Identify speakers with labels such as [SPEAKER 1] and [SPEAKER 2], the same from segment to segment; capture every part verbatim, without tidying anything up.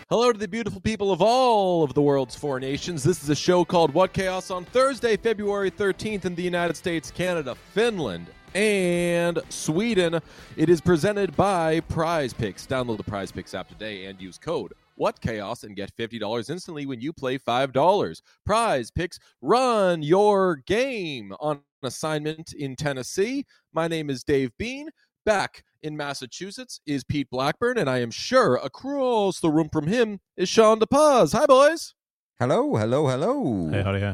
[SPEAKER 1] Hello to the beautiful people of all of the world's four nations. This is a show called What Chaos on Thursday, February thirteenth in the United States, Canada, Finland, and Sweden. It is presented by Prize Picks. Download the Prize Picks app today and use code What Chaos and get fifty dollars instantly when you play five dollars. Prize Picks, run your game. On assignment in Tennessee, my name is Dave Bean. Back in Massachusetts is Pete Blackburn, and I am sure across the room from him is Sean DePaz. Hi, boys.
[SPEAKER 2] Hello, hello, hello.
[SPEAKER 3] Hey, howdy, hi.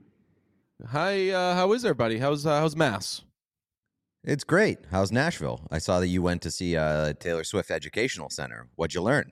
[SPEAKER 1] Hi, uh, how is everybody? How's uh, how's Mass?
[SPEAKER 2] It's great. How's Nashville? I saw that you went to see uh, Taylor Swift Educational Center. What'd you learn?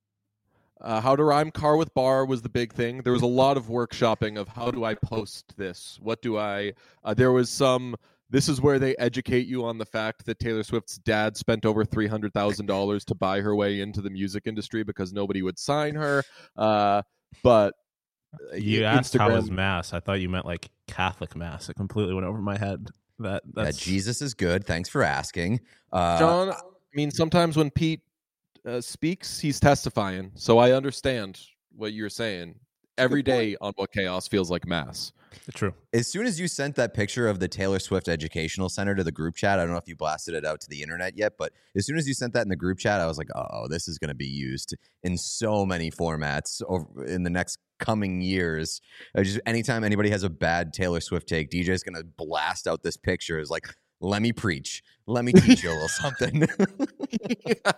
[SPEAKER 1] Uh, how to rhyme car with bar was the big thing. There was a lot of workshopping of how do I post this? What do I... Uh, there was some... This is where they educate you on the fact that Taylor Swift's dad spent over three hundred thousand dollars to buy her way into the music industry because nobody would sign her. Uh, but
[SPEAKER 3] You
[SPEAKER 1] Instagram...
[SPEAKER 3] asked how was Mass. I thought you meant like Catholic Mass. It completely went over my head. That that's...
[SPEAKER 2] Yeah, Jesus is good. Thanks for asking. Uh,
[SPEAKER 1] John, I mean, sometimes when Pete uh, speaks, he's testifying. So I understand what you're saying. Every day on What Chaos feels like Mass.
[SPEAKER 3] True.
[SPEAKER 2] As soon as you sent that picture of the Taylor Swift Educational Center to the group chat, I don't know if you blasted it out to the internet yet, but as soon as you sent that in the group chat, I was like, oh, this is going to be used in so many formats over in the next coming years. I just anytime anybody has a bad Taylor Swift take, D J's going to blast out this picture. Is like, let me preach. Let me teach you a little something.
[SPEAKER 1] Yeah.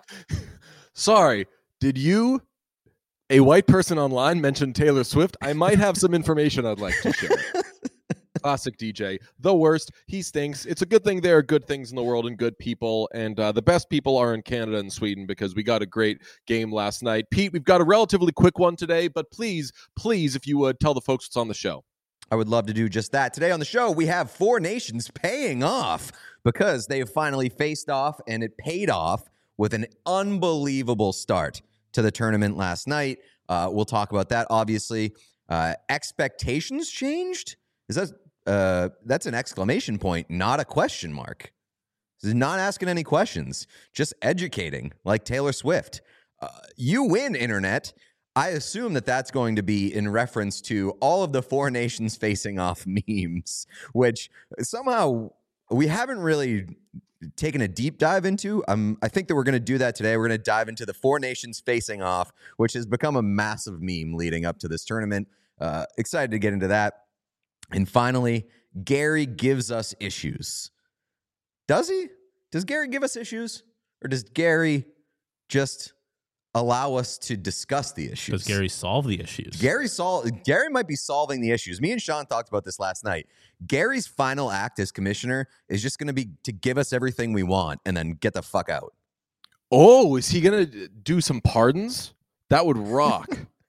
[SPEAKER 1] Sorry, did you, a white person online, mention Taylor Swift? I might have some information I'd like to share. Classic D J. The worst. He stinks. It's a good thing there are good things in the world and good people, and uh, the best people are in Canada and Sweden because we got a great game last night. Pete, we've got a relatively quick one today, but please, please, if you would, tell the folks what's on the show.
[SPEAKER 2] I would love to do just that. Today on the show, we have four nations paying off because they have finally faced off, and it paid off with an unbelievable start to the tournament last night. Uh, we'll talk about that, obviously. Uh, expectations changed? Is that uh, that's an exclamation point, not a question mark. This is not asking any questions, just educating, like Taylor Swift. Uh, you win, Internet. I assume that that's going to be in reference to all of the four nations facing off memes, which somehow we haven't really taken a deep dive into. Um, I think that we're going to do that today. We're going to dive into the four nations facing off, which has become a massive meme leading up to this tournament. Uh, excited to get into that. And finally, Gary gives us issues. Does he? Does Gary give us issues? Or does Gary just allow us to discuss the issues?
[SPEAKER 3] Does Gary solve the issues?
[SPEAKER 2] Gary sol- Gary might be solving the issues. Me and Sean talked about this last night. Gary's final act as commissioner is just going to be to give us everything we want and then get the fuck out.
[SPEAKER 1] Oh, is he going to do some pardons? That would rock.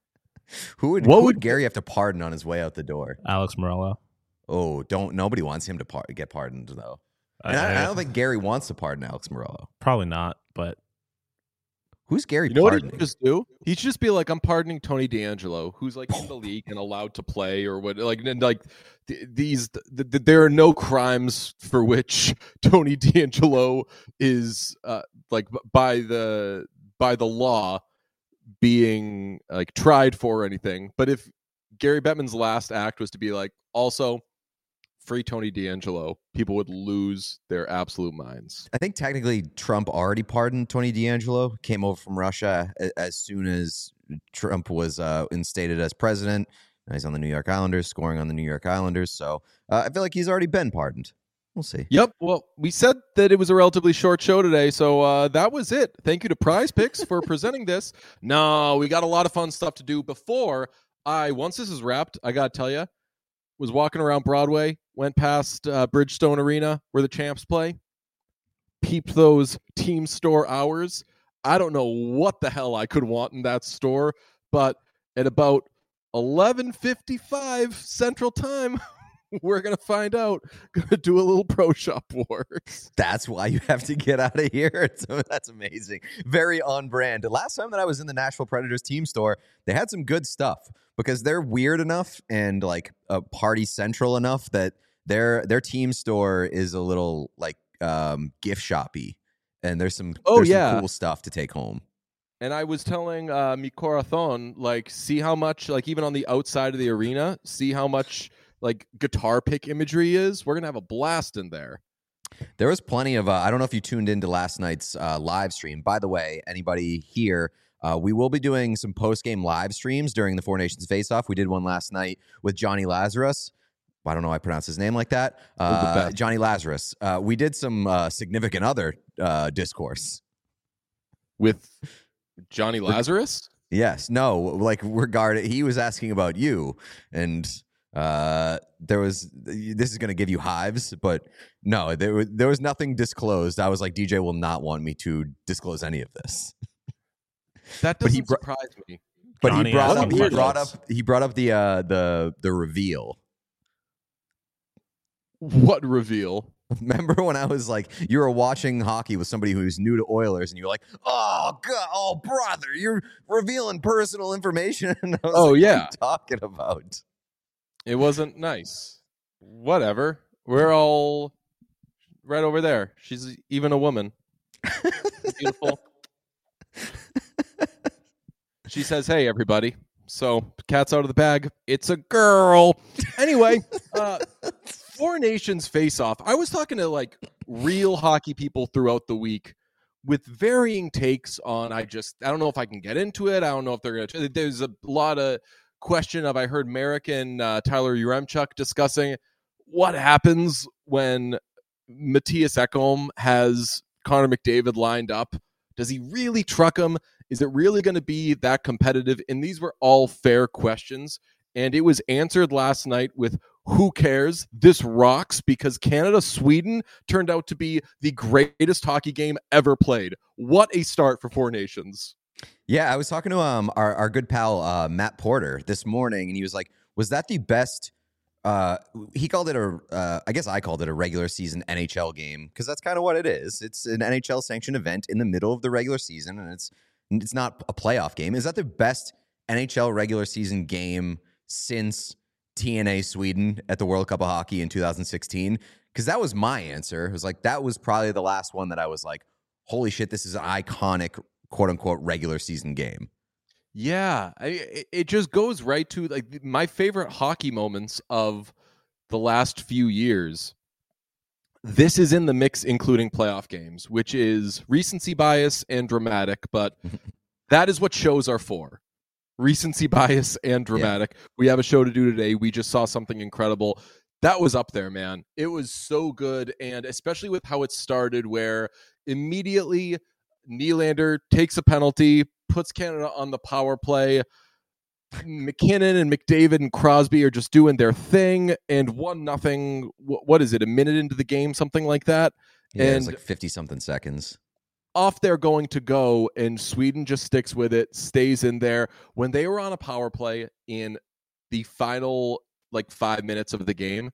[SPEAKER 2] Who would,
[SPEAKER 1] what
[SPEAKER 2] who
[SPEAKER 1] would
[SPEAKER 2] would Gary have to pardon on his way out the door?
[SPEAKER 3] Alex Morello.
[SPEAKER 2] Oh, don't nobody wants him to par- get pardoned though. And
[SPEAKER 3] I,
[SPEAKER 2] I, I don't think Gary wants to pardon Alex Morello.
[SPEAKER 3] Probably not, but
[SPEAKER 2] Who's Gary
[SPEAKER 1] You know what he
[SPEAKER 2] pardoning?
[SPEAKER 1] should just do? He should just be like, I'm pardoning Tony D'Angelo, who's like in the league and allowed to play, or what? Like, and like th- these, th- th- there are no crimes for which Tony D'Angelo is uh, like b- by the by the law being like tried for or anything. But if Gary Bettman's last act was to be like, also free Tony D'Angelo, people would lose their absolute minds.
[SPEAKER 2] I think technically Trump already pardoned Tony D'Angelo, came over from Russia a- as soon as Trump was uh, instated as president. Now he's on the New York Islanders, scoring on the New York Islanders. So uh, I feel like he's already been pardoned. We'll see.
[SPEAKER 1] Yep. Well, we said that it was a relatively short show today, so uh, that was it. Thank you to Prize Picks for presenting this. No, we got a lot of fun stuff to do before I, once this is wrapped, I got to tell you, was walking around Broadway, went past uh, Bridgestone Arena where the Champs play, peeped those team store hours. I don't know what the hell I could want in that store, but at about eleven fifty-five Central Time, we're going to find out. Going to do a little Pro Shop Wars.
[SPEAKER 2] That's why you have to get out of here. So that's amazing. Very on brand. The last time that I was in the Nashville Predators team store, they had some good stuff because they're weird enough and like a uh, party central enough that their their team store is a little like um, gift shoppy. And there's some,
[SPEAKER 1] oh,
[SPEAKER 2] there's
[SPEAKER 1] yeah.
[SPEAKER 2] some cool stuff to take home.
[SPEAKER 1] And I was telling uh, Mi Corazon, like, see how much, like, even on the outside of the arena, see how much, like, guitar pick imagery is. We're going to have a blast in there.
[SPEAKER 2] There was plenty of, uh, I don't know if you tuned into last night's uh, live stream. By the way, anybody here, uh, we will be doing some post-game live streams during the Four Nations Face-Off. We did one last night with Johnny Lazarus. I don't know why I pronounce his name like that. Uh, Johnny Lazarus. Uh, we did some uh, significant other uh, discourse.
[SPEAKER 1] With Johnny Lazarus?
[SPEAKER 2] Yes. No, like regarding, he was asking about you, and uh, there was, this is going to give you hives, but no, there was, there was nothing disclosed. I was like, D J will not want me to disclose any of this.
[SPEAKER 1] That doesn't he surprise me.
[SPEAKER 2] But
[SPEAKER 3] Johnny
[SPEAKER 2] he brought up,
[SPEAKER 3] asking
[SPEAKER 2] he brought
[SPEAKER 3] questions.
[SPEAKER 2] up, he brought up the, uh, the, the reveal.
[SPEAKER 1] What reveal?
[SPEAKER 2] Remember when I was like, you were watching hockey with somebody who's new to Oilers, and you were like, "Oh God, oh brother, you're revealing personal information." And I was
[SPEAKER 1] Oh
[SPEAKER 2] like,
[SPEAKER 1] yeah,
[SPEAKER 2] what are you talking about?
[SPEAKER 1] It wasn't nice. Whatever. We're all right over there. She's even a woman. Beautiful. She says, "Hey, everybody." So, cat's out of the bag. It's a girl. Anyway, uh, Four Nations face-off. I was talking to like real hockey people throughout the week with varying takes on. I just I don't know if I can get into it. I don't know if they're gonna. There's a lot of question of. I heard Merrick and uh, Tyler Yaremchuk discussing what happens when Matthias Ekholm has Connor McDavid lined up. Does he really truck him? Is it really going to be that competitive? And these were all fair questions. And it was answered last night with, who cares? This rocks, because Canada-Sweden turned out to be the greatest hockey game ever played. What a start for Four Nations.
[SPEAKER 2] Yeah, I was talking to um our, our good pal uh, Matt Porter this morning, and he was like, was that the best... Uh, he called it a, uh, I guess I called it a regular season N H L game, because that's kind of what it is. It's an N H L sanctioned event in the middle of the regular season, and it's it's not a playoff game. Is that the best N H L regular season game since T N A Sweden at the World Cup of Hockey in two thousand sixteen? Because that was my answer. It was like, that was probably the last one that I was like, holy shit, this is an iconic quote unquote regular season game.
[SPEAKER 1] Yeah, I, it just goes right to like my favorite hockey moments of the last few years. This is in the mix, including playoff games, which is recency bias and dramatic, but that is what shows are for. Recency bias and dramatic. Yeah. We have a show to do today. We just saw something incredible. That was up there, man. It was so good, and especially with how it started, where immediately Nylander takes a penalty, puts Canada on the power play. McKinnon and McDavid and Crosby are just doing their thing, and one nothing. What is it? A minute into the game, something like that.
[SPEAKER 2] Yeah,
[SPEAKER 1] and
[SPEAKER 2] it's like fifty something seconds.
[SPEAKER 1] Off they're going to go, and Sweden just sticks with it, stays in there. When they were on a power play in the final like five minutes of the game,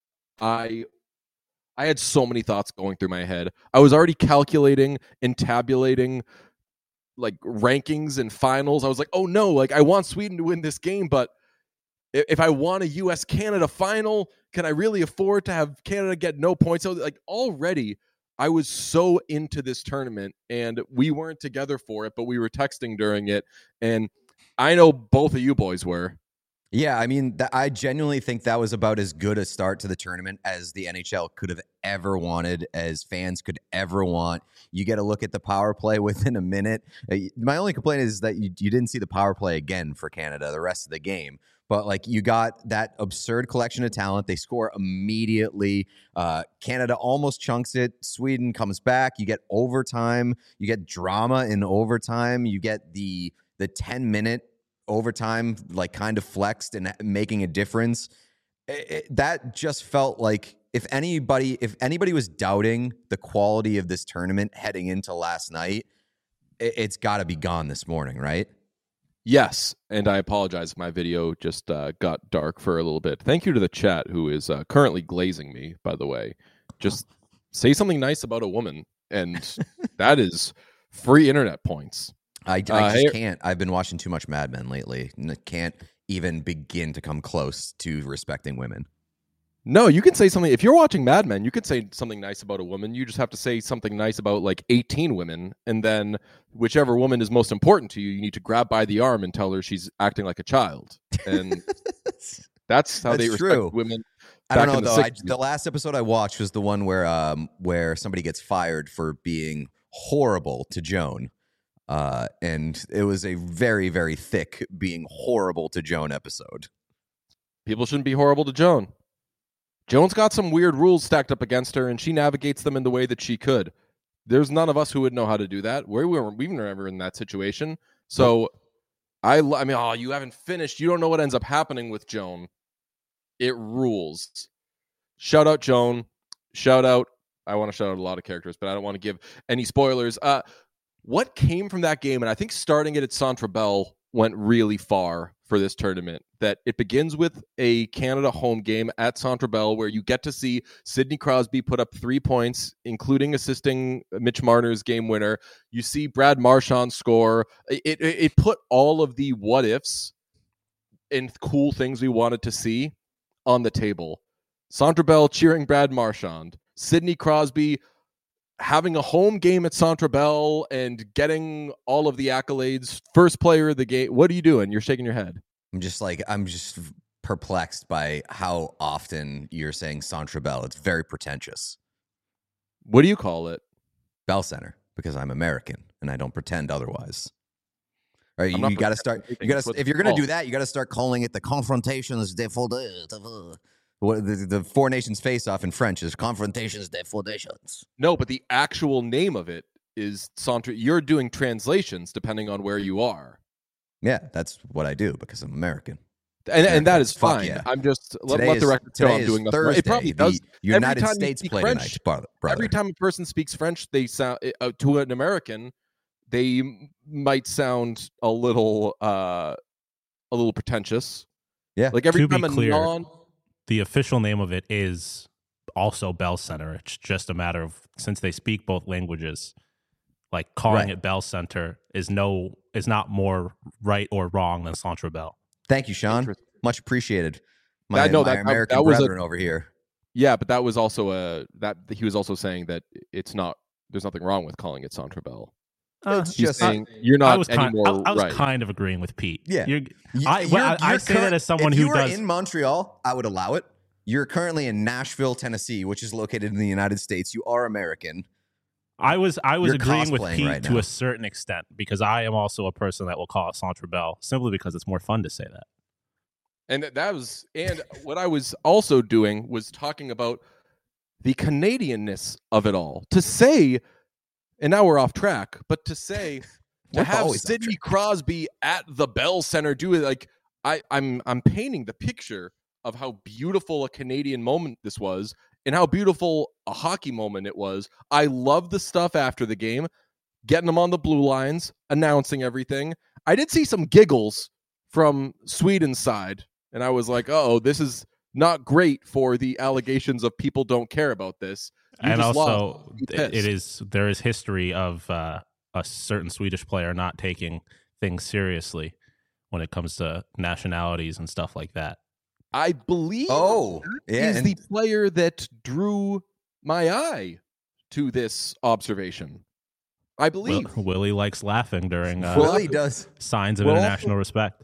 [SPEAKER 1] I. I had so many thoughts going through my head. I was already calculating and tabulating like rankings and finals. I was like, oh no, like I want Sweden to win this game, but if I want a U S Canada final, can I really afford to have Canada get no points? So like already I was so into this tournament, and we weren't together for it, but we were texting during it. And I know both of you boys were.
[SPEAKER 2] Yeah, I mean, th- I genuinely think that was about as good a start to the tournament as the N H L could have ever wanted, as fans could ever want. You get a look at the power play within a minute. Uh, my only complaint is that you, you didn't see the power play again for Canada the rest of the game. But, like, you got that absurd collection of talent. They score immediately. Uh, Canada almost chunks it. Sweden comes back. You get overtime. You get drama in overtime. You get the the ten-minute overtime, like, kind of flexed and making a difference. It, it, that just felt like if anybody if anybody was doubting the quality of this tournament heading into last night, it, it's got to be gone this morning, right?
[SPEAKER 1] Yes, and I apologize if my video just uh, got dark for a little bit. Thank you to the chat, who is uh, currently glazing me, by the way. Just say something nice about a woman, and that is free internet points.
[SPEAKER 2] I, I
[SPEAKER 1] uh,
[SPEAKER 2] just
[SPEAKER 1] hey,
[SPEAKER 2] can't. I've been watching too much Mad Men lately. Can't even begin to come close to respecting women.
[SPEAKER 1] No, you can say something. If you're watching Mad Men, you could say something nice about a woman. You just have to say something nice about like eighteen women. And then whichever woman is most important to you, you need to grab by the arm and tell her she's acting like a child. And that's how
[SPEAKER 2] That's
[SPEAKER 1] they respect
[SPEAKER 2] true.
[SPEAKER 1] women.
[SPEAKER 2] I don't
[SPEAKER 1] back
[SPEAKER 2] know
[SPEAKER 1] in the
[SPEAKER 2] though. I,
[SPEAKER 1] sixties.
[SPEAKER 2] the last episode I watched was the one where um where somebody gets fired for being horrible to Joan. Uh, and it was a very, very thick being horrible to Joan episode.
[SPEAKER 1] People shouldn't be horrible to Joan. Joan's got some weird rules stacked up against her, and she navigates them in the way that she could. There's none of us who would know how to do that. We were we were never in that situation. So I, I mean, oh, you haven't finished. You don't know what ends up happening with Joan. It rules. Shout out Joan. Shout out. I want to shout out a lot of characters, but I don't want to give any spoilers. Uh, what came from that game, and I think starting it at Centre Bell went really far for this tournament, that it begins with a Canada home game at Centre Bell where you get to see Sidney Crosby put up three points, including assisting Mitch Marner's game winner. You see Brad Marchand score. It, it, it put all of the what ifs and cool things we wanted to see on the table. Centre Bell cheering Brad Marchand. Sidney Crosby having a home game at Centre Bell and getting all of the accolades. First player of the game. What are you doing? You're shaking your head.
[SPEAKER 2] I'm just like, I'm just perplexed by how often you're saying Centre Bell. It's very pretentious.
[SPEAKER 1] What do you call it?
[SPEAKER 2] Bell Center, because I'm American and I don't pretend otherwise. All right,
[SPEAKER 1] I'm
[SPEAKER 2] you,
[SPEAKER 1] not
[SPEAKER 2] you got to
[SPEAKER 1] pretending
[SPEAKER 2] start.
[SPEAKER 1] anything.
[SPEAKER 2] You got
[SPEAKER 1] It's
[SPEAKER 2] to
[SPEAKER 1] what
[SPEAKER 2] if you're
[SPEAKER 1] it's
[SPEAKER 2] going to do
[SPEAKER 1] called.
[SPEAKER 2] that, you got to start calling it the Confrontations des Faudations. What the, the Four Nations face-off in French is Confrontations des Faudations.
[SPEAKER 1] No, but the actual name of it is Centre. You're doing translations depending on where you are.
[SPEAKER 2] Yeah, that's what I do because I'm American.
[SPEAKER 1] And, and that is
[SPEAKER 2] Fuck
[SPEAKER 1] fine.
[SPEAKER 2] yeah.
[SPEAKER 1] I'm just let,
[SPEAKER 2] Today
[SPEAKER 1] let the
[SPEAKER 2] is-
[SPEAKER 1] record show
[SPEAKER 2] today
[SPEAKER 1] I'm
[SPEAKER 2] is
[SPEAKER 1] doing nothing.
[SPEAKER 2] Thursday.
[SPEAKER 1] It probably
[SPEAKER 2] The
[SPEAKER 1] does.
[SPEAKER 2] United
[SPEAKER 1] Every time you
[SPEAKER 2] States
[SPEAKER 1] speak
[SPEAKER 2] play
[SPEAKER 1] French,
[SPEAKER 2] tonight, brother. brother.
[SPEAKER 1] Every time a person speaks French, they sound uh, to an American, they might sound a little uh, a little pretentious.
[SPEAKER 2] Yeah.
[SPEAKER 1] Like every
[SPEAKER 3] To be
[SPEAKER 1] time a
[SPEAKER 3] clear,
[SPEAKER 1] non
[SPEAKER 3] The official name of it is also Bell Center. It's just a matter of, since they speak both languages, like calling
[SPEAKER 2] Right.
[SPEAKER 3] it Bell Center is no is not more right or wrong than Centre Bell.
[SPEAKER 2] Thank you, Sean.
[SPEAKER 1] Interesting.
[SPEAKER 2] Much appreciated. My,
[SPEAKER 1] I know
[SPEAKER 2] my
[SPEAKER 1] that- that-
[SPEAKER 2] American
[SPEAKER 1] that was a-
[SPEAKER 2] brethren over here.
[SPEAKER 1] Yeah, but that was also a that he was also saying that it's not. There's nothing wrong with calling it Centre Bell.
[SPEAKER 3] Uh,
[SPEAKER 2] It's
[SPEAKER 1] He's
[SPEAKER 2] just-
[SPEAKER 1] saying you're not
[SPEAKER 3] I was kind,
[SPEAKER 1] anymore
[SPEAKER 3] I, I was
[SPEAKER 1] right.
[SPEAKER 3] kind of agreeing with Pete.
[SPEAKER 2] Yeah.
[SPEAKER 3] You're,
[SPEAKER 2] You-
[SPEAKER 3] I,
[SPEAKER 2] you're-
[SPEAKER 3] well, I, I
[SPEAKER 2] you're
[SPEAKER 3] say
[SPEAKER 2] current-
[SPEAKER 3] that as someone
[SPEAKER 2] if
[SPEAKER 3] who
[SPEAKER 2] you were
[SPEAKER 3] does.
[SPEAKER 2] in Montreal, I would allow it. You're currently in Nashville, Tennessee, which is located in the United States. You are American.
[SPEAKER 3] I was I was
[SPEAKER 2] You're
[SPEAKER 3] agreeing with
[SPEAKER 2] cosplaying
[SPEAKER 3] Pete
[SPEAKER 2] right
[SPEAKER 3] to
[SPEAKER 2] now.
[SPEAKER 3] a certain extent because I am also a person that will call it Centre Bell simply because it's more fun to say that.
[SPEAKER 1] And that- that was, and what I was also doing was talking about the Canadianness of it all. To say, and now we're off track, but to say,
[SPEAKER 2] We're
[SPEAKER 1] to have
[SPEAKER 2] always off
[SPEAKER 1] Sidney Crosby at the Bell Center do it, like I, I'm, I'm painting the picture of how beautiful a Canadian moment this was, and how beautiful a hockey moment it was. I love the stuff after the game, getting them on the blue lines, announcing everything. I did see some giggles from Sweden's side. And I was like, oh, this is not great for the allegations of people don't care about this. You
[SPEAKER 3] and
[SPEAKER 1] just
[SPEAKER 3] also,
[SPEAKER 1] lost. Be
[SPEAKER 3] it, it
[SPEAKER 1] pissed.
[SPEAKER 3] is there is history of uh, a certain Swedish player not taking things seriously when it comes to nationalities and stuff like that.
[SPEAKER 1] I believe
[SPEAKER 2] Oh, yeah.
[SPEAKER 1] is
[SPEAKER 2] and
[SPEAKER 1] the player that drew my eye to this observation. I
[SPEAKER 3] Will,
[SPEAKER 1] believe.
[SPEAKER 3] Willie likes laughing during uh,
[SPEAKER 2] Willie does.
[SPEAKER 3] signs of
[SPEAKER 1] Well,
[SPEAKER 3] international respect.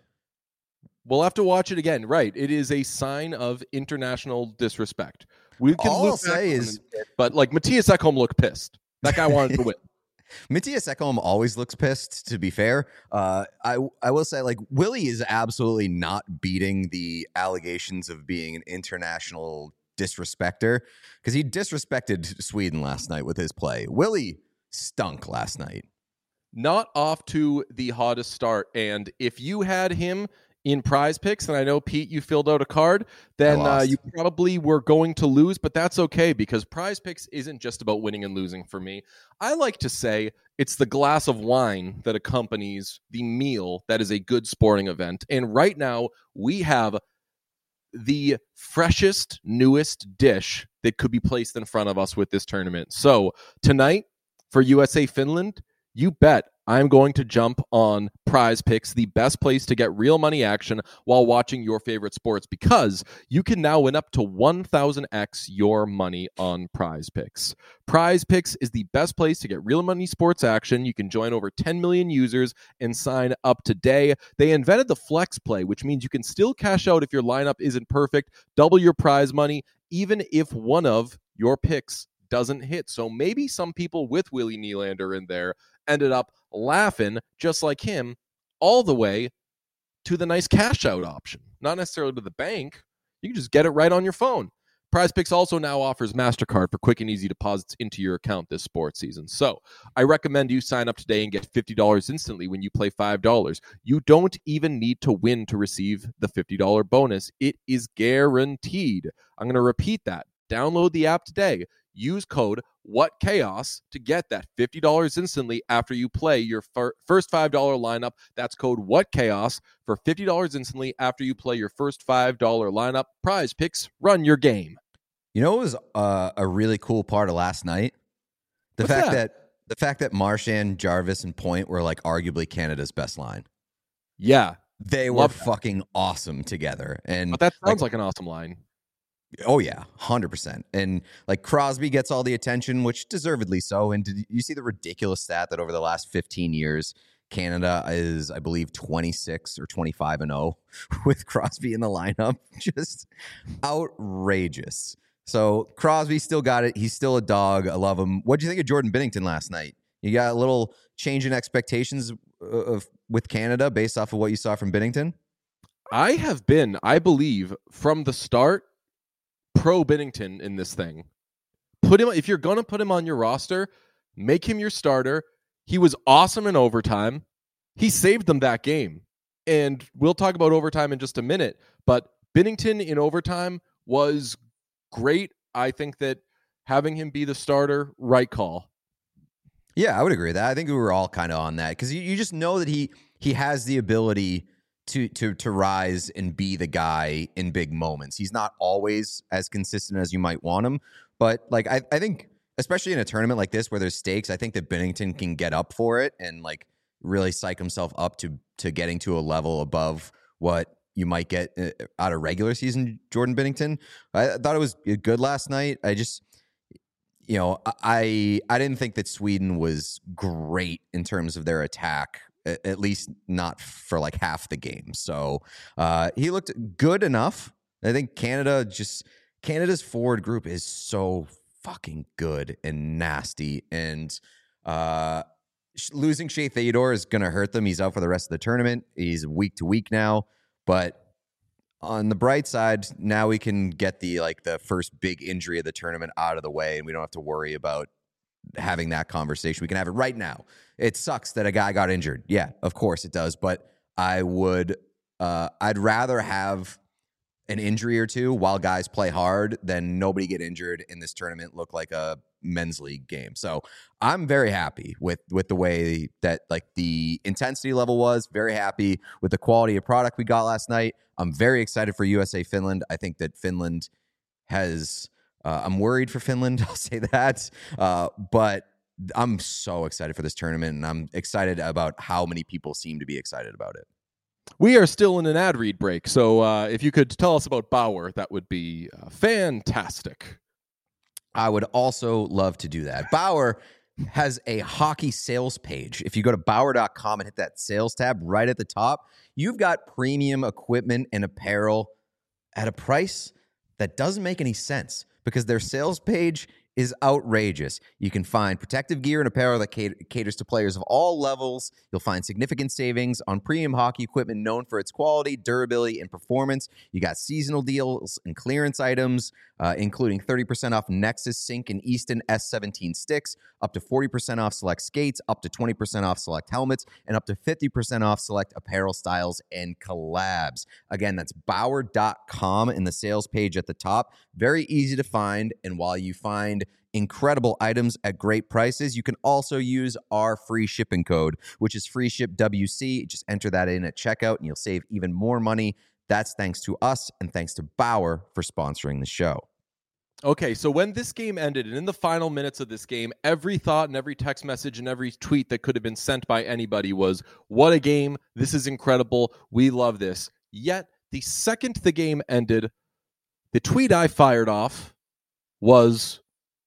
[SPEAKER 1] We'll have to watch it again. Right. It is a sign of international disrespect. We can
[SPEAKER 2] All
[SPEAKER 1] look
[SPEAKER 2] I'll say
[SPEAKER 1] back on
[SPEAKER 2] is-
[SPEAKER 1] it, but like Matthias Ekholm looked pissed. That guy wanted to win.
[SPEAKER 2] Matthias Ekholm always looks pissed, to be fair. Uh, I I will say, like, Willie is absolutely not beating the allegations of being an international disrespecter because he disrespected Sweden last night with his play. Willie stunk last night.
[SPEAKER 1] Not off to the hottest start. And if you had him in Prize Picks, and I know, Pete, you filled out a card, then uh,
[SPEAKER 2] lost.
[SPEAKER 1] you probably were going to lose, but that's okay because Prize Picks isn't just about winning and losing for me. I like to say it's the glass of wine that accompanies the meal that is a good sporting event. And right now, we have the freshest, newest dish that could be placed in front of us with this tournament. So tonight, for U S A Finland, You bet I'm going to jump on Prize Picks, the best place to get real money action while watching your favorite sports, because you can now win up to one thousand x your money on Prize Picks. Prize Picks is the best place to get real money sports action. You can join over ten million users and sign up today. They invented the flex play, which means you can still cash out if your lineup isn't perfect, double your prize money, even if one of your picks doesn't hit. So maybe some people with Willie Nylander in there ended up laughing just like him all the way to the nice cash out option. Not necessarily to the bank. You can just get it right on your phone. Prize Picks also now offers MasterCard for quick and easy deposits into your account this sports season. So I recommend you sign up today and get fifty dollars instantly when you play five dollars. You don't even need to win to receive the fifty dollars bonus. It is guaranteed. I'm going to repeat that. Download the app today. Use code WhatChaos to get that fifty dollars instantly after you play your fir- first five dollars lineup. That's code WhatChaos for fifty dollars instantly after you play your first five dollars lineup. Prize Picks, run your game.
[SPEAKER 2] You know what was uh, a really cool part of last night? The
[SPEAKER 1] What's
[SPEAKER 2] fact
[SPEAKER 1] that?
[SPEAKER 2] that? the fact that Marchand, Jarvis, and Point were like arguably Canada's best line.
[SPEAKER 1] Yeah,
[SPEAKER 2] They were
[SPEAKER 1] Love that.
[SPEAKER 2] fucking awesome together. And
[SPEAKER 1] but that sounds
[SPEAKER 2] like,
[SPEAKER 1] like an awesome line.
[SPEAKER 2] oh yeah, one hundred percent. And like Crosby gets all the attention, which deservedly so. And did you see the ridiculous stat that over the last fifteen years, Canada is, I believe, twenty-six or twenty-five and oh with Crosby in the lineup? Just outrageous. So Crosby still got it. He's still a dog. I love him. What do you think of Jordan Binnington last night? You got a little change in expectations of with Canada based off of what you saw from Binnington?
[SPEAKER 1] I have been, I believe, from the start, pro Binnington in this thing. Put him if you're gonna put him on your roster, make him your starter. He was awesome in overtime. He saved them that game. And we'll talk about overtime in just a minute. But Binnington in overtime was great. I think that having him be the starter, right call.
[SPEAKER 2] Yeah, I would agree with that. I think we were all kind of on that because you, you just know that he he has the ability to to to rise and be the guy in big moments. He's not always as consistent as you might want him, but like I, I think especially in a tournament like this where there's stakes, I think that Binnington can get up for it and like really psych himself up to to getting to a level above what you might get out of regular season Jordan Binnington. I thought it was good last night. I just You know, I I didn't think that Sweden was great in terms of their attack, at least not for like half the game. So uh, he looked good enough. I think Canada just Canada's forward group is so fucking good and nasty, and uh, losing Shea Theodore is going to hurt them. He's out for the rest of the tournament. He's week to week now, but on the bright side, now we can get the like the first big injury of the tournament out of the way, and we don't have to worry about having that conversation. We can have it right now. It sucks that a guy got injured. Yeah, of course it does. But I would, uh, I'd rather have an injury or two while guys play hard than nobody get injured in this tournament look like a men's league game. So I'm very happy with with the way that like the intensity level was, very happy with the quality of product we got last night. I'm very excited for U S A Finland. I think that Finland has uh, I'm worried for Finland, I'll say that. Uh, but I'm so excited for this tournament, and I'm excited about how many people seem to be excited about it.
[SPEAKER 1] We are still in an ad read break, so uh, if you could tell us about Bauer, that would be uh, fantastic.
[SPEAKER 2] I would also love to do that. Bauer has a hockey sales page. If you go to Bauer dot com and hit that sales tab right at the top, you've got premium equipment and apparel at a price that doesn't make any sense because their sales page is outrageous. You can find protective gear and apparel that caters to players of all levels. You'll find significant savings on premium hockey equipment known for its quality, durability, and performance. You got seasonal deals and clearance items, uh, including thirty percent off Nexus Sync and Easton S seventeen sticks, up to forty percent off select skates, up to twenty percent off select helmets, and up to fifty percent off select apparel styles and collabs. Again, that's Bauer dot com in the sales page at the top. Very easy to find, and while you find incredible items at great prices, you can also use our free shipping code, which is free ship W C. Just enter that in at checkout, and you'll save even more money. That's thanks to us, and thanks to Bauer for sponsoring the show.
[SPEAKER 1] Okay, so when this game ended, and in the final minutes of this game, every thought and every text message and every tweet that could have been sent by anybody was, what a game. This is incredible. We love this. Yet, the second the game ended, the tweet I fired off was,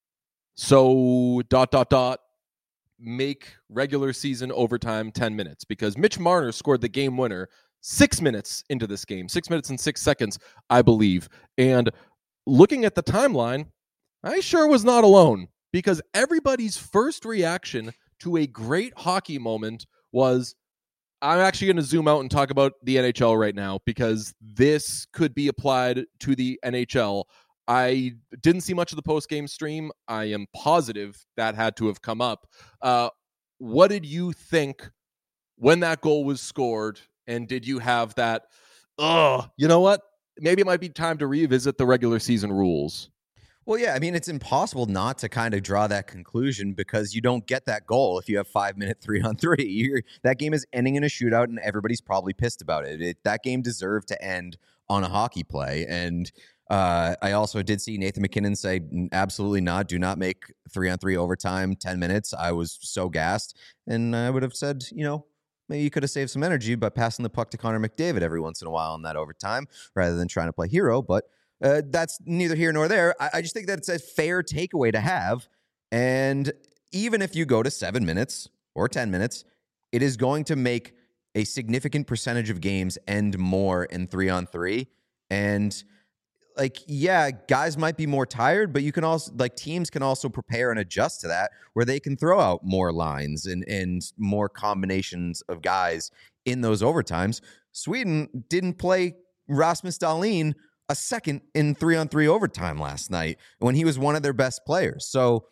[SPEAKER 1] so dot, dot, dot, make regular season overtime ten minutes. Because Mitch Marner scored the game winner six minutes into this game. Six minutes and six seconds, I believe. And looking at the timeline, I sure was not alone, because everybody's first reaction to a great hockey moment was, I'm actually going to zoom out and talk about the N H L right now, because this could be applied to the N H L. I didn't see much of the post-game stream. I am positive that had to have come up. Uh, what did you think when that goal was scored? And did you have that, oh, you know what? Maybe it might be time to revisit the regular season rules.
[SPEAKER 2] Well, yeah, I mean, it's impossible not to kind of draw that conclusion, because you don't get that goal if you have five-minute three-on-three. You're, that game is ending in a shootout, and everybody's probably pissed about it. it. That game deserved to end on a hockey play, and uh, I also did see Nathan MacKinnon say, absolutely not, do not make three-on-three overtime ten minutes. I was so gassed, and I would have said, you know, maybe you could have saved some energy by passing the puck to Connor McDavid every once in a while in that overtime rather than trying to play hero. But uh, that's neither here nor there. I, I just think that it's a fair takeaway to have. And even if you go to seven minutes or ten minutes, it is going to make a significant percentage of games end more in three on three. And like, yeah, guys might be more tired, but you can also, like, teams can also prepare and adjust to that, where they can throw out more lines and, and more combinations of guys in those overtimes. Sweden didn't play Rasmus Dahlin a second in three-on-three overtime last night when he was one of their best players. So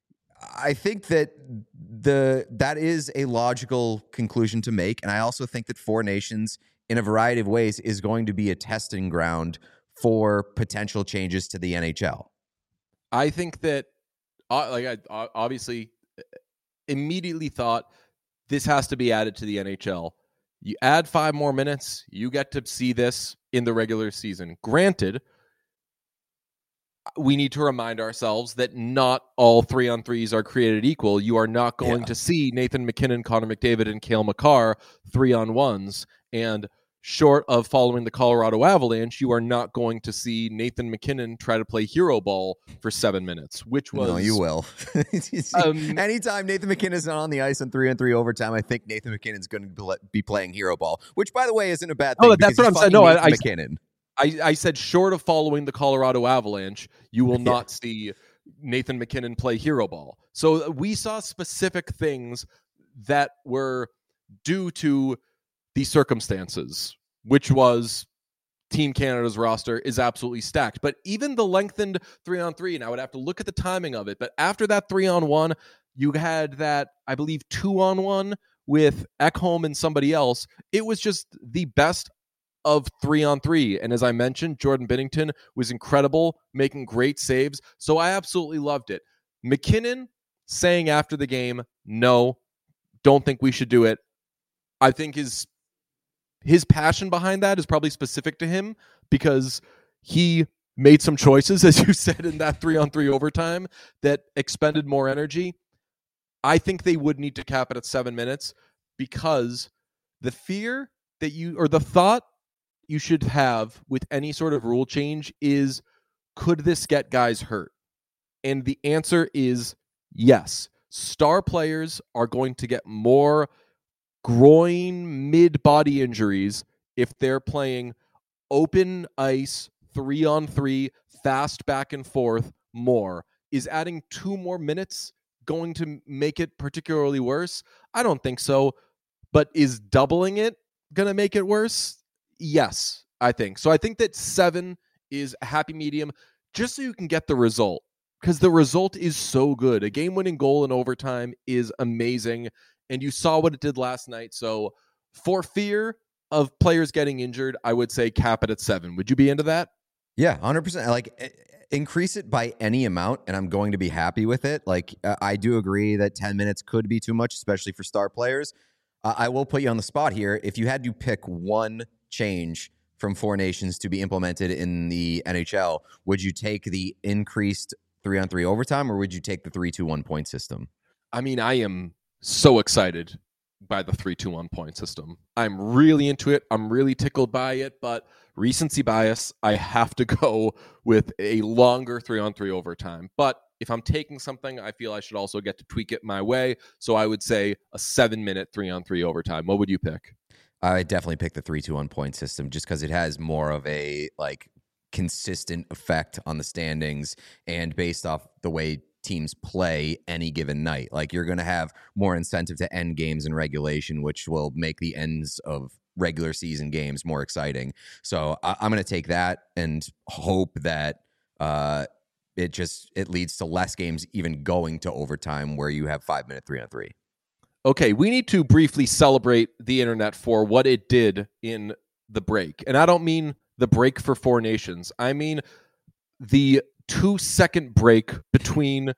[SPEAKER 2] I think that the that is a logical conclusion to make, and I also think that Four Nations, in a variety of ways, is going to be a testing ground for potential changes to the N H L.
[SPEAKER 1] I think that, uh, like, I obviously immediately thought this has to be added to the N H L. You add five more minutes, you get to see this in the regular season. Granted, we need to remind ourselves that not all three-on-threes are created equal. You are not going yeah. to see Nathan MacKinnon, Connor McDavid, and Cale Makar three-on-ones. And short of following the Colorado Avalanche, you are not going to see Nathan MacKinnon try to play hero ball for seven minutes, which was...
[SPEAKER 2] No, you will. um, Anytime Nathan MacKinnon's not on the ice on three on three overtime, I think Nathan MacKinnon's going to be playing hero ball, which, by the way, isn't a bad thing.
[SPEAKER 1] Oh, that's what I'm saying. No, I, I,
[SPEAKER 2] MacKinnon.
[SPEAKER 1] I, I said short of following the Colorado Avalanche, you will not yeah. see Nathan MacKinnon play hero ball. So we saw specific things that were due to the circumstances, which was Team Canada's roster is absolutely stacked. But even the lengthened three-on-three, and I would have to look at the timing of it, but after that three-on-one, you had that, I believe, two-on-one with Ekholm and somebody else. It was just the best of three-on-three. And as I mentioned, Jordan Binnington was incredible, making great saves. So I absolutely loved it. MacKinnon saying after the game, no, don't think we should do it. I think his his passion behind that is probably specific to him, because he made some choices, as you said, in that three-on-three overtime that expended more energy. I think they would need to cap it at seven minutes, because the fear that you, or the thought you should have with any sort of rule change is, could this get guys hurt? And the answer is yes. Star players are going to get more groin mid-body injuries if they're playing open ice, three on three, fast back and forth more. Is adding two more minutes going to make it particularly worse? I don't think so. But is doubling it going to make it worse? Yes, I think. So I think that seven is a happy medium, just so you can get the result, because the result is so good. A game-winning goal in overtime is amazing, and you saw what it did last night. So for fear of players getting injured, I would say cap it at seven. Would you be into that?
[SPEAKER 2] Yeah, one hundred percent. Like, increase it by any amount, and I'm going to be happy with it. Like, uh, I do agree that ten minutes could be too much, especially for star players. Uh, I will put you on the spot here. If you had to pick one change from Four Nations to be implemented in the N H L, would you take the increased three-on-three overtime, or would you take the three two one point system?
[SPEAKER 1] I mean, I am so excited by the three two one point system. I'm really into it. I'm really tickled by it, but recency bias, I have to go with a longer three-on-three overtime. But if I'm taking something, I feel I should also get to tweak it my way. So I would say a seven-minute three-on-three overtime. What would you pick?
[SPEAKER 2] I definitely pick the three two one point system just because it has more of a like consistent effect on the standings and based off the way teams play any given night. Like you're going to have more incentive to end games in regulation, which will make the ends of regular season games more exciting. So I- I'm going to take that and hope that uh, it just it leads to less games even going to overtime where you have five minute three on three.
[SPEAKER 1] Okay, we need to briefly celebrate the internet for what it did in the break. And I don't mean the break for Four Nations. I mean the two-second break between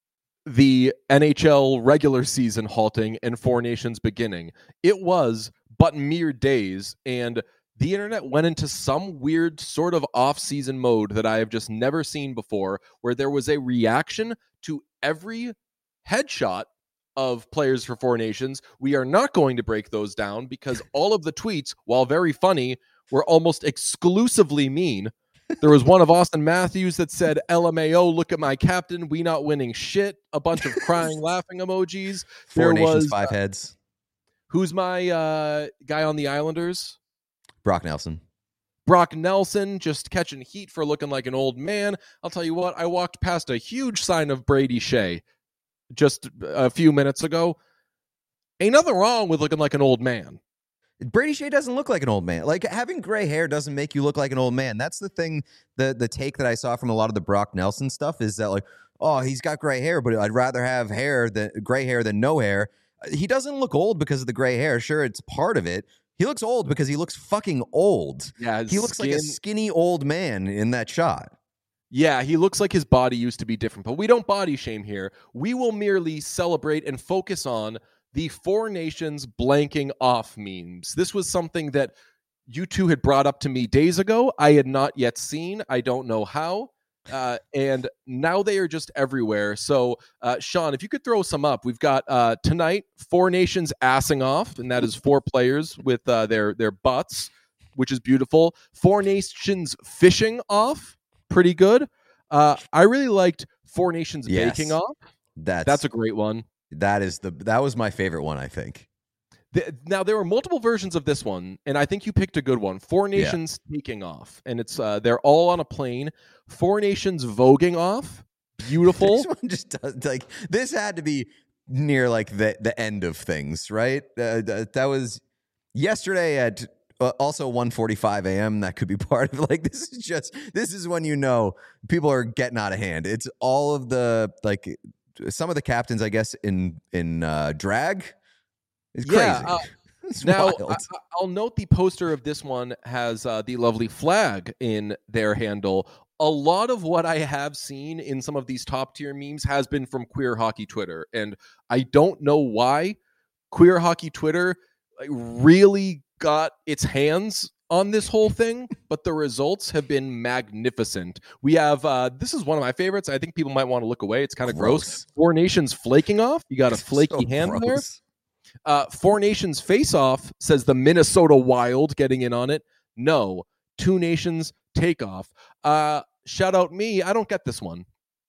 [SPEAKER 1] the N H L regular season halting and Four Nations beginning. It was but mere days, and the internet went into some weird sort of off-season mode that I have just never seen before, where there was a reaction to every headshot of players for Four Nations. We are not going to break those down because all of the tweets, while very funny, were almost exclusively mean. There was one of Austin Matthews that said, L M A O, look at my captain, we not winning shit. A bunch of crying, laughing emojis.
[SPEAKER 2] Four
[SPEAKER 1] there
[SPEAKER 2] Nations,
[SPEAKER 1] was,
[SPEAKER 2] five
[SPEAKER 1] uh,
[SPEAKER 2] heads.
[SPEAKER 1] Who's my uh, guy on the Islanders?
[SPEAKER 2] Brock Nelson.
[SPEAKER 1] Brock Nelson just catching heat for looking like an old man. I'll tell you what, I walked past a huge sign of Brady Shea just a few minutes ago. Ain't nothing wrong with looking like an old man.
[SPEAKER 2] Brady Shea doesn't look like an old man. Like having gray hair doesn't make you look like an old man. That's the thing. The the take that I saw from a lot of the Brock Nelson stuff is that like, oh, he's got gray hair, but I'd rather have hair than gray hair than no hair. He doesn't look old because of the gray hair. Sure, it's part of it. He looks old because he looks fucking old.
[SPEAKER 1] Yeah,
[SPEAKER 2] he looks
[SPEAKER 1] skin,
[SPEAKER 2] like a skinny old man in that shot.
[SPEAKER 1] Yeah, he looks like his body used to be different, but we don't body shame here. We will merely celebrate and focus on the Four Nations blanking off memes. This was something that you two had brought up to me days ago. I had not yet seen. I don't know how. Uh, and now they are just everywhere. So, uh, Sean, if you could throw some up. We've got uh, tonight, Four Nations assing off, and that is four players with uh, their, their butts, which is beautiful. Four Nations fishing off. Pretty good. Uh, I really liked Four Nations
[SPEAKER 2] yes,
[SPEAKER 1] baking off.
[SPEAKER 2] That's
[SPEAKER 1] that's a great one.
[SPEAKER 2] That is the that was my favorite one, I think.
[SPEAKER 1] The, now there were multiple versions of this one, and I think you picked a good one. Four Nations yeah. taking off, and it's uh, they're all on a plane. Four Nations voguing off. Beautiful.
[SPEAKER 2] This one just does, like this had to be near like the the end of things, right? Uh, that, that was yesterday at. Uh, also one forty-five a.m. That could be part of like this is just this is when you know people are getting out of hand. It's all of the like some of the captains, I guess, in in uh, drag. It's
[SPEAKER 1] yeah,
[SPEAKER 2] crazy.
[SPEAKER 1] Uh,
[SPEAKER 2] it's
[SPEAKER 1] now
[SPEAKER 2] wild.
[SPEAKER 1] I, I'll note the poster of this one has uh, the lovely flag in their handle. A lot of what I have seen in some of these top tier memes has been from Queer Hockey Twitter, and I don't know why Queer Hockey Twitter like, really got its hands on this whole thing, but the results have been magnificent. We have, uh, this is one of my favorites. I think people might want to look away. It's kind of gross. gross. Four Nations flaking off. You got a flaky so hand gross. there. Uh, Four Nations face off, says the Minnesota Wild getting in on it. No. Two Nations take off. Uh, shout out me. I don't get this one.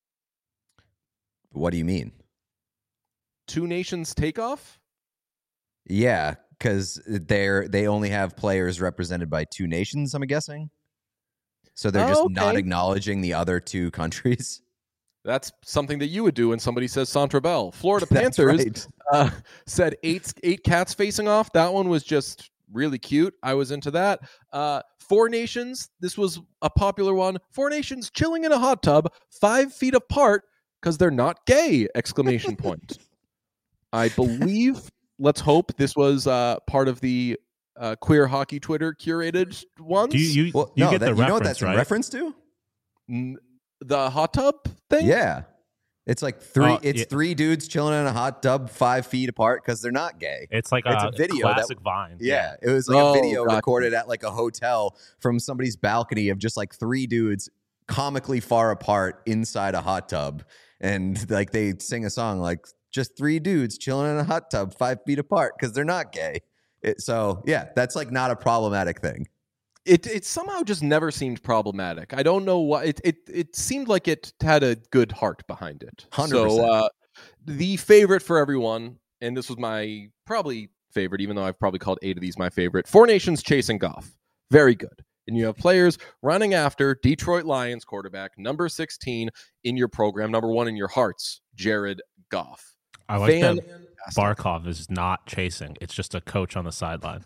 [SPEAKER 2] What do you mean?
[SPEAKER 1] Two Nations take off?
[SPEAKER 2] Yeah. Because they're they only have players represented by two nations, I'm guessing. So they're just oh, okay. not acknowledging the other two countries.
[SPEAKER 1] That's something that you would do when somebody says Centre Bell. Florida Panthers right. uh, said eight eight cats facing off. That one was just really cute. I was into that. Uh, Four Nations. This was a popular one. Four Nations chilling in a hot tub, five feet apart because they're not gay! Exclamation point. I believe. Let's hope this was uh, part of the uh, Queer Hockey Twitter curated ones.
[SPEAKER 3] Do you, you,
[SPEAKER 2] well,
[SPEAKER 3] you
[SPEAKER 2] no,
[SPEAKER 3] get
[SPEAKER 2] that,
[SPEAKER 3] the
[SPEAKER 2] you
[SPEAKER 3] reference,
[SPEAKER 2] know what that's
[SPEAKER 3] right?
[SPEAKER 2] in reference to?
[SPEAKER 1] N- the hot tub thing?
[SPEAKER 2] Yeah. It's like three.
[SPEAKER 3] Uh,
[SPEAKER 2] it's
[SPEAKER 3] yeah.
[SPEAKER 2] three dudes chilling in a hot tub five feet apart because they're not gay.
[SPEAKER 3] It's like
[SPEAKER 2] It's
[SPEAKER 3] a,
[SPEAKER 2] a video
[SPEAKER 3] classic
[SPEAKER 2] that-
[SPEAKER 3] Vine.
[SPEAKER 2] Yeah, it was like
[SPEAKER 1] Oh,
[SPEAKER 2] a video
[SPEAKER 1] gotcha.
[SPEAKER 2] recorded at like a hotel from somebody's balcony of just like three dudes comically far apart inside a hot tub, and like they sing a song like just three dudes chilling in a hot tub five feet apart because they're not gay. It, so yeah, that's like not a problematic thing.
[SPEAKER 1] It it somehow just never seemed problematic. I don't know why. It it it seemed like it had a good heart behind it.
[SPEAKER 2] one hundred percent.
[SPEAKER 1] So uh, the favorite for everyone, and this was my probably favorite, even though I've probably called eight of these my favorite. Four Nations chasing Goff, very good. And you have players running after Detroit Lions quarterback number sixteen in your program, number one in your hearts, Jared Goff.
[SPEAKER 3] I like
[SPEAKER 1] Fan-
[SPEAKER 3] that Barkov is not chasing. It's just a coach on the sideline.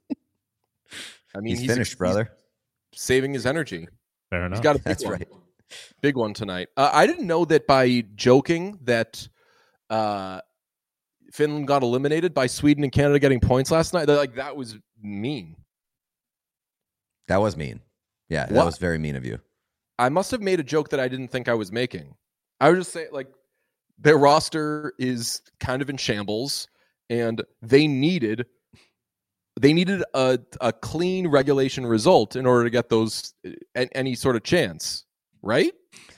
[SPEAKER 1] I mean,
[SPEAKER 2] he's, finished, brother.
[SPEAKER 1] He's saving his energy.
[SPEAKER 3] Fair enough.
[SPEAKER 1] He's got a big
[SPEAKER 2] That's
[SPEAKER 1] one.
[SPEAKER 2] right.
[SPEAKER 1] Big one tonight. Uh, I didn't know that by joking that uh, Finland got eliminated by Sweden and Canada getting points last night. That, like that was mean.
[SPEAKER 2] That was mean. Yeah, that
[SPEAKER 1] What?
[SPEAKER 2] was very mean of you.
[SPEAKER 1] I must have made a joke that I didn't think I was making. I was just saying, like, their roster is kind of in shambles, and they needed they needed a a clean regulation result in order to get those a- any sort of chance, right?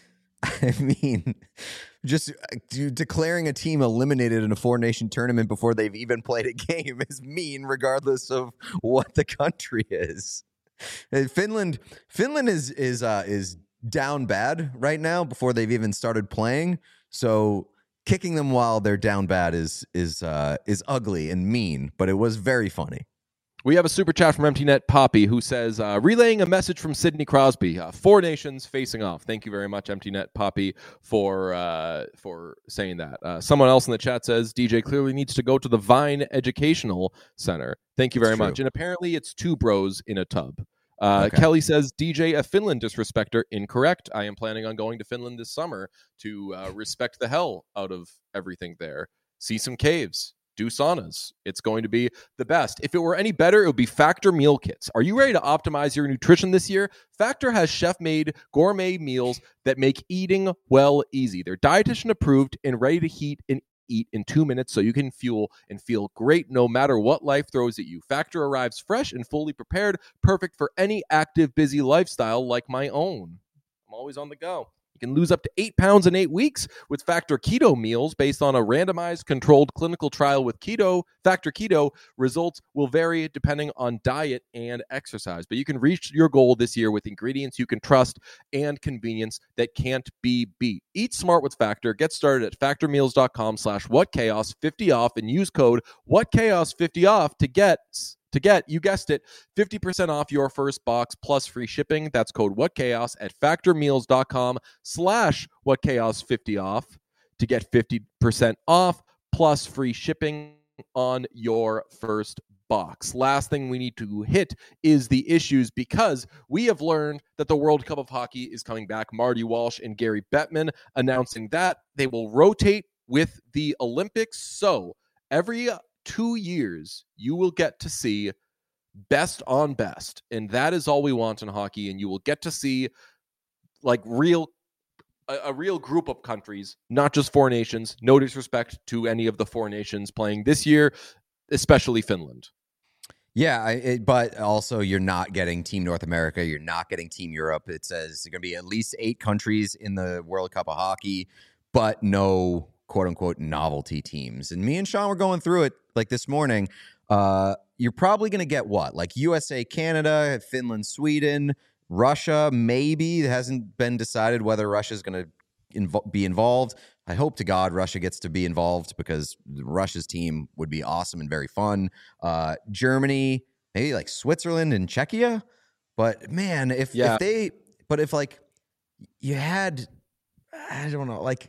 [SPEAKER 2] I mean, just uh, d- declaring a team eliminated in a four-nation tournament before they've even played a game is mean, regardless of what the country is. Uh, Finland, Finland is is uh, is down bad right now before they've even started playing. So kicking them while they're down bad is is uh, is ugly and mean, but it was very funny.
[SPEAKER 1] We have a super chat from EmptyNet Poppy who says, uh, relaying a message from Sidney Crosby, uh, four nations facing off. Thank you very much, EmptyNet Poppy, for uh, for saying that. Uh, someone else in the chat says, D J clearly needs to go to the Vine Educational Center. Thank you very
[SPEAKER 2] It's true.
[SPEAKER 1] much. And apparently it's two bros in a tub. Uh,
[SPEAKER 2] Okay.
[SPEAKER 1] Kelly says, D J, a Finland disrespecter. Incorrect. I am planning on going to Finland this summer to uh, respect the hell out of everything there. See some caves. Do saunas. It's going to be the best. If it were any better, it would be Factor meal kits. Are you ready to optimize your nutrition this year? Factor has chef-made gourmet meals that make eating well easy. They're dietitian approved and ready to heat and eat in two minutes so you can fuel and feel great no matter what life throws at you. Factor arrives fresh and fully prepared, perfect for any active, busy lifestyle like my own. I'm always on the go. You can lose up to eight pounds in eight weeks with Factor Keto meals based on a randomized controlled clinical trial with Keto. Factor Keto results will vary depending on diet and exercise, but you can reach your goal this year with ingredients you can trust and convenience that can't be beat. Eat smart with Factor. Get started at factormeals.com slash whatchaos50 off and use code whatchaos50 off to get To get, you guessed it, fifty percent off your first box plus free shipping. That's code WhatChaos at factormeals.com slash WhatChaos50 off to get fifty percent off plus free shipping on your first box. Last thing we need to hit is the issues because we have learned that the World Cup of Hockey is coming back. Marty Walsh and Gary Bettman announcing that they will rotate with the Olympics. So every two years, you will get to see best on best. And that is all we want in hockey. And you will get to see like real, a, a real group of countries, not just four nations. No disrespect to any of the four nations playing this year, especially Finland.
[SPEAKER 2] Yeah, I, it, but also you're not getting Team North America. You're not getting Team Europe. It says there's going to be at least eight countries in the World Cup of Hockey, but no quote unquote novelty teams. And me and Sean were going through it like this morning. Uh, you're probably going to get what? Like U S A, Canada, Finland, Sweden, Russia, maybe. It hasn't been decided whether Russia's going to invo- be involved. I hope to God Russia gets to be involved because Russia's team would be awesome and very fun. Uh, Germany, maybe like Switzerland and Czechia. But man, if,
[SPEAKER 1] Yeah.
[SPEAKER 2] if they, but if like you had, I don't know, like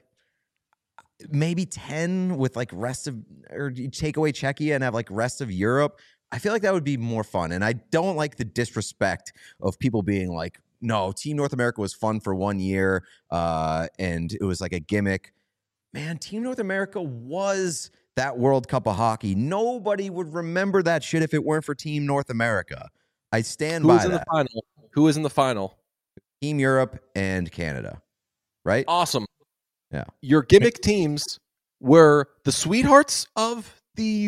[SPEAKER 2] maybe ten with like rest of, or you take away Czechia and have like rest of Europe, I feel like that would be more fun. And I don't like the disrespect of people being like, no, Team North America was fun for one year uh, and it was like a gimmick. Man, Team North America was that World Cup of Hockey. Nobody would remember that shit if it weren't for Team North America. I stand
[SPEAKER 1] Who
[SPEAKER 2] by
[SPEAKER 1] is in
[SPEAKER 2] that.
[SPEAKER 1] the final? Who is in the final?
[SPEAKER 2] Team Europe and Canada, right?
[SPEAKER 1] Awesome.
[SPEAKER 2] Yeah.
[SPEAKER 1] Your gimmick teams were the sweethearts of the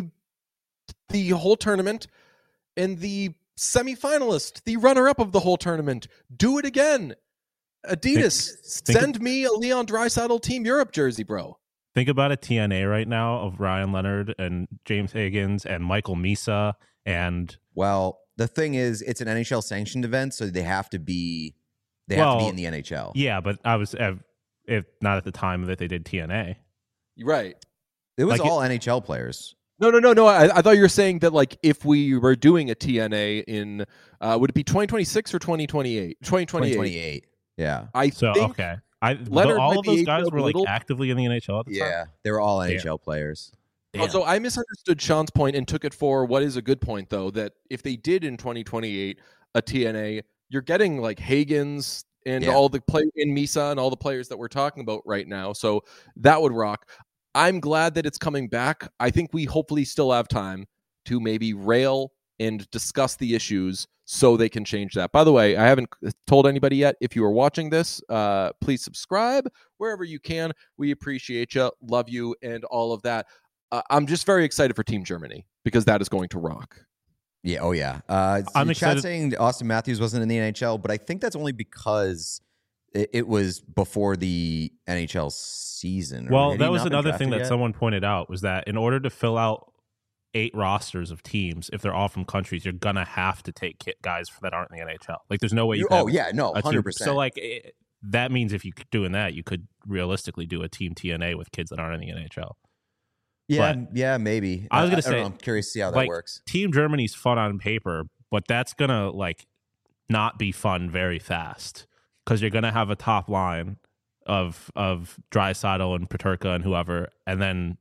[SPEAKER 1] the whole tournament and the semifinalist, the runner-up of the whole tournament. Do it again. Adidas,
[SPEAKER 3] Think, think
[SPEAKER 1] send
[SPEAKER 3] of,
[SPEAKER 1] me a Leon Draisaitl Team Europe jersey, bro.
[SPEAKER 3] Think about a T N A right now of Ryan Leonard and James Higgins and Michael Misa and
[SPEAKER 2] Well, the thing is, it's an N H L sanctioned event, so they have to be they
[SPEAKER 3] well,
[SPEAKER 2] have to be in the N H L.
[SPEAKER 3] Yeah, but I was if not at the time that they did T N A.
[SPEAKER 1] Right.
[SPEAKER 2] It was
[SPEAKER 3] like
[SPEAKER 2] all
[SPEAKER 3] it,
[SPEAKER 2] N H L players.
[SPEAKER 1] No, no, no, no. I, I thought you were saying that, like, if we were doing a T N A in, uh, would it be twenty twenty-six or twenty twenty-eight? twenty twenty-eight.
[SPEAKER 2] twenty twenty-eight. Yeah.
[SPEAKER 1] I
[SPEAKER 3] so
[SPEAKER 1] think
[SPEAKER 3] okay. I
[SPEAKER 1] Leonard
[SPEAKER 3] all
[SPEAKER 1] might
[SPEAKER 3] of
[SPEAKER 1] be
[SPEAKER 3] those guys
[SPEAKER 1] aged
[SPEAKER 3] were
[SPEAKER 1] a
[SPEAKER 3] like
[SPEAKER 1] little.
[SPEAKER 3] actively in the N H L at the time.
[SPEAKER 2] Yeah, they were all N H L players.
[SPEAKER 3] Damn.
[SPEAKER 1] So I misunderstood Sean's point and took it for what is a good point, though, that if they did in twenty twenty-eight a T N A, you're getting like Higgins and
[SPEAKER 2] Yeah.
[SPEAKER 1] all the play in Misa and all the players that we're talking about right now. So that would rock. I'm glad that it's coming back. I think we hopefully still have time to maybe rail and discuss the issues so they can change that. By the way, I haven't told anybody yet. If you are watching this, uh, please subscribe wherever you can. We appreciate you, love you, and all of that. Uh, I'm just very excited for Team Germany because that is going to rock.
[SPEAKER 2] Yeah, oh yeah. Uh,
[SPEAKER 3] I'm
[SPEAKER 2] chat
[SPEAKER 3] excited-
[SPEAKER 2] saying Austin Matthews wasn't in the N H L, but I think that's only because it, it was before the N H L season. Or
[SPEAKER 3] Well,
[SPEAKER 2] had
[SPEAKER 3] that
[SPEAKER 2] he
[SPEAKER 3] was
[SPEAKER 2] not been
[SPEAKER 3] another thing
[SPEAKER 2] drafted
[SPEAKER 3] that
[SPEAKER 2] yet?
[SPEAKER 3] someone pointed out was that in order to fill out eight rosters of teams, if they're all from countries, you're gonna have to take ki- guys that aren't in the N H L. Like, there's no way you.
[SPEAKER 2] You-
[SPEAKER 3] Can
[SPEAKER 2] oh
[SPEAKER 3] have
[SPEAKER 2] yeah, no,
[SPEAKER 3] a two-
[SPEAKER 2] hundred percent.
[SPEAKER 3] So like it, that means if you could doing that, you could realistically do a team T N A with kids that aren't in the N H L.
[SPEAKER 2] yeah,
[SPEAKER 3] but-
[SPEAKER 2] yeah, maybe.
[SPEAKER 3] I was gonna
[SPEAKER 2] I don't
[SPEAKER 3] say,
[SPEAKER 2] know, I'm curious to see how that
[SPEAKER 3] like,
[SPEAKER 2] works.
[SPEAKER 3] Team Germany's fun on paper, but that's gonna like not be fun very fast because you're gonna have a top line of of Draisaitl and Peterka and whoever, and then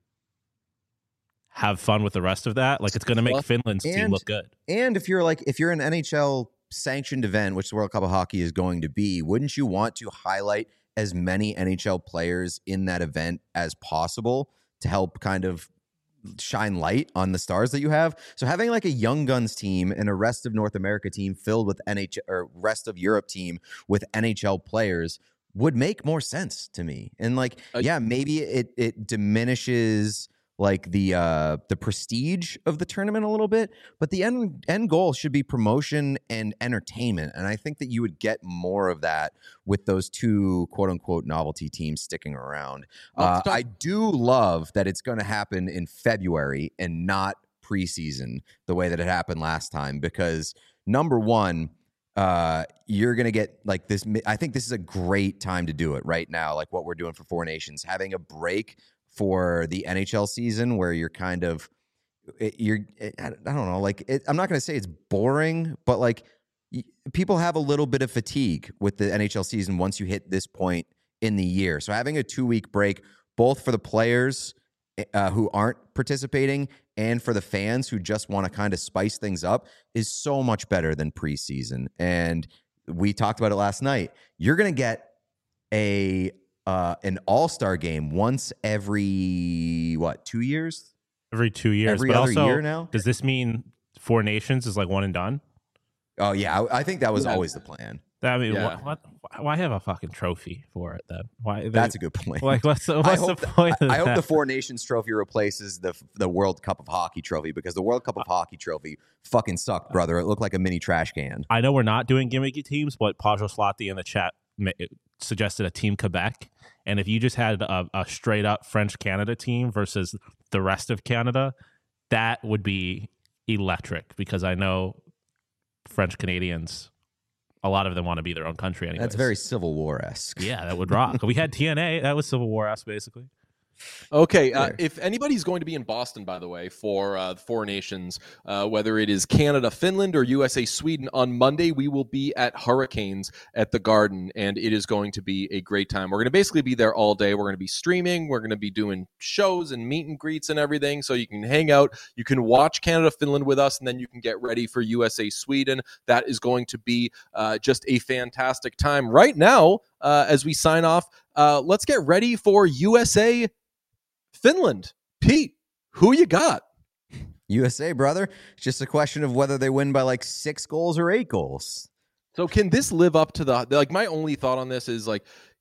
[SPEAKER 3] have fun with the rest of that. Like, it's gonna make Finland's team
[SPEAKER 2] And-
[SPEAKER 3] look good.
[SPEAKER 2] And if you're like, if you're an N H L sanctioned event, which the World Cup of Hockey is going to be, wouldn't you want to highlight as many N H L players in that event as possible to help kind of shine light on the stars that you have? So having like a Young Guns team and a rest of North America team filled with N H L or rest of Europe team with N H L players would make more sense to me. And like,
[SPEAKER 1] Uh,
[SPEAKER 2] yeah, maybe it it diminishes like the uh the prestige of the tournament a little bit, but the end end goal should be promotion and entertainment. And I think that you would get more of that with those two quote unquote novelty teams sticking around. Uh,
[SPEAKER 1] Let's talk-
[SPEAKER 2] I do love that it's going to happen in February and not preseason the way that it happened last time, because number one, uh, you're going to get like this. I think this is a great time to do it right now. Like what we're doing for Four Nations, having a break for the N H L season where you're kind of, you're, I don't know, like, it, I'm not going to say it's boring, but like y- people have a little bit of fatigue with the N H L season once you hit this point in the year. So having a two week break, both for the players uh, who aren't participating and for the fans who just want to kind of spice things up, is so much better than preseason. And we talked about it last night. You're going to get a, Uh, an all-star game once every, what, two years?
[SPEAKER 3] Every two years.
[SPEAKER 2] Every
[SPEAKER 3] but
[SPEAKER 2] other
[SPEAKER 3] also,
[SPEAKER 2] year now?
[SPEAKER 3] does this mean Four Nations is like one and done?
[SPEAKER 2] Oh, yeah. I, I think that was
[SPEAKER 1] Yeah.
[SPEAKER 2] always the plan.
[SPEAKER 3] I mean,
[SPEAKER 1] Yeah.
[SPEAKER 3] what, what, why have a fucking trophy for it then? Why? They,
[SPEAKER 2] That's a good point.
[SPEAKER 3] like, what's the,
[SPEAKER 2] I
[SPEAKER 3] what's the
[SPEAKER 2] hope,
[SPEAKER 3] point?
[SPEAKER 2] the,
[SPEAKER 3] of
[SPEAKER 2] I hope
[SPEAKER 3] that?
[SPEAKER 2] the Four Nations trophy replaces the the World Cup of Hockey trophy, because the World Cup of Hockey trophy fucking sucked, brother. It looked like a mini trash can.
[SPEAKER 3] I know we're not doing gimmicky teams, but Pajot Slotty in the chat ma- suggested a Team Quebec. And if you just had a, a straight up French Canada team versus the rest of Canada, that would be electric, because I know French Canadians, a lot of them want to be their own country anyway.
[SPEAKER 2] That's very Civil War-esque.
[SPEAKER 3] Yeah, that would rock. We had T N A. That was Civil War esque, basically.
[SPEAKER 1] Okay, uh,
[SPEAKER 2] There.
[SPEAKER 1] if anybody's going to be in Boston, by the way, for uh, the Four Nations, uh, whether it is Canada, Finland, or U S A, Sweden, on Monday we will be at Hurricanes at the Garden, and it is going to be a great time. We're going to basically be there all day. We're going to be streaming. We're going to be doing shows and meet and greets and everything, so you can hang out. You can watch Canada, Finland with us, and then you can get ready for U S A, Sweden. That is going to be uh, just a fantastic time. Right now, uh, as we sign off, uh, let's get ready for U S A, Finland. Pete, who you got?
[SPEAKER 2] U S A, brother. It's just a question of whether they win by like six goals or eight goals.
[SPEAKER 1] So can this live up to the, like, my only thought on this is, like,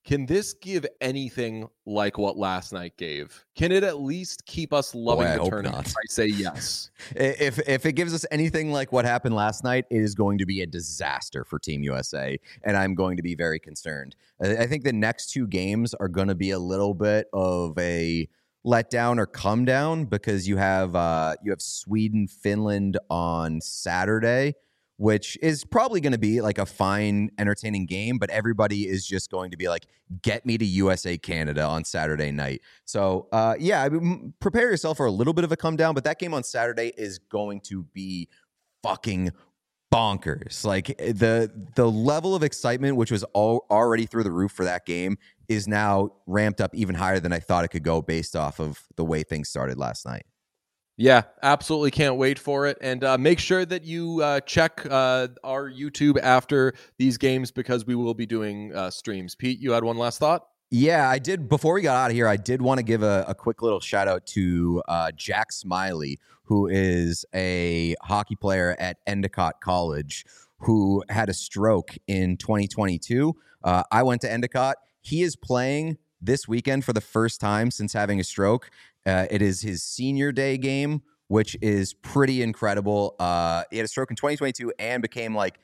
[SPEAKER 1] Can this give anything like what last night gave? Can it at least keep us loving
[SPEAKER 2] Boy, I
[SPEAKER 1] the
[SPEAKER 2] hope
[SPEAKER 1] tournament?
[SPEAKER 2] not.
[SPEAKER 1] I say yes.
[SPEAKER 2] If if it gives us anything like what happened last night, it is going to be a disaster for Team U S A, and I'm going to be very concerned. I I think the next two games are going to be a little bit of a letdown or come down because you have uh, you have Sweden, Finland on Saturday, which is probably going to be like a fine, entertaining game, but everybody is just going to be like, get me to U S A Canada on Saturday night. So, uh, yeah, I mean, prepare yourself for a little bit of a come down, but that game on Saturday is going to be fucking bonkers. Like the the level of excitement, which was all, already through the roof for that game, is now ramped up even higher than I thought it could go based off of the way things started last night.
[SPEAKER 1] Yeah, absolutely can't wait for it. And uh, make sure that you uh, check uh, our YouTube after these games because we will be doing uh, streams. Pete, you had one last thought?
[SPEAKER 2] Yeah, I did. Before we got out of here, I did want to give a, a quick little shout out to uh, Jack Smiley, who is a hockey player at Endicott College who had a stroke in twenty twenty-two. Uh, I went to Endicott. He is playing this weekend for the first time since having a stroke. Uh, it is his senior day game, which is pretty incredible. Uh, he had a stroke in twenty twenty-two and became like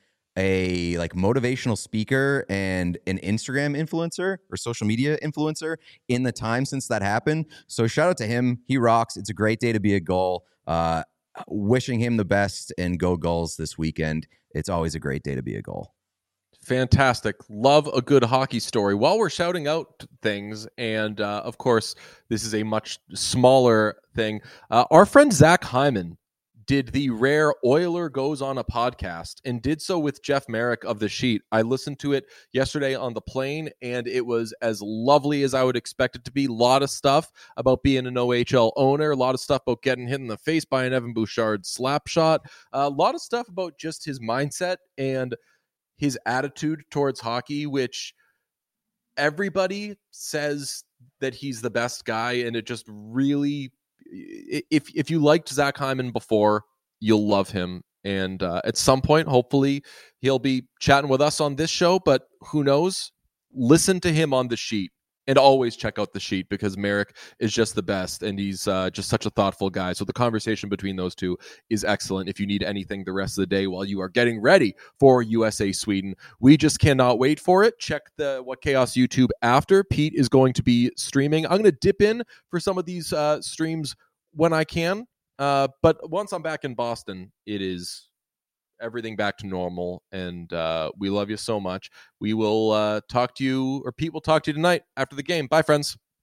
[SPEAKER 2] a like motivational speaker and an Instagram influencer or social media influencer in the time since that happened. So shout out to him. He rocks. It's a great day to be a Gull. Uh, wishing him the best and go Gulls this weekend. It's always a great day to be a Gull.
[SPEAKER 1] Fantastic. Love a good hockey story. While we're shouting out things, and uh, of course, this is a much smaller thing, uh, our friend Zach Hyman did the rare Oiler Goes on a podcast and did so with Jeff Merrick of The Sheet. I listened to it yesterday on the plane, and it was as lovely as I would expect it to be. A lot of stuff about being an O H L owner, a lot of stuff about getting hit in the face by an Evan Bouchard slap shot, a lot of stuff about just his mindset and his attitude towards hockey, which everybody says that he's the best guy. And it just really, if if you liked Zach Hyman before, you'll love him. And uh, at some point, hopefully he'll be chatting with us on this show, but who knows? Listen to him on The Sheet. And always check out The Sheet because Merrick is just the best, and he's uh, just such a thoughtful guy. So the conversation between those two is excellent. If you need anything the rest of the day while you are getting ready for U S A Sweden, we just cannot wait for it. Check the What Chaos YouTube after. Pete is going to be streaming. I'm going to dip in for some of these uh, streams when I can. Uh, but once I'm back in Boston, it is everything back to normal, and uh, we love you so much. We will uh, talk to you, or Pete will talk to you tonight after the game. Bye, friends.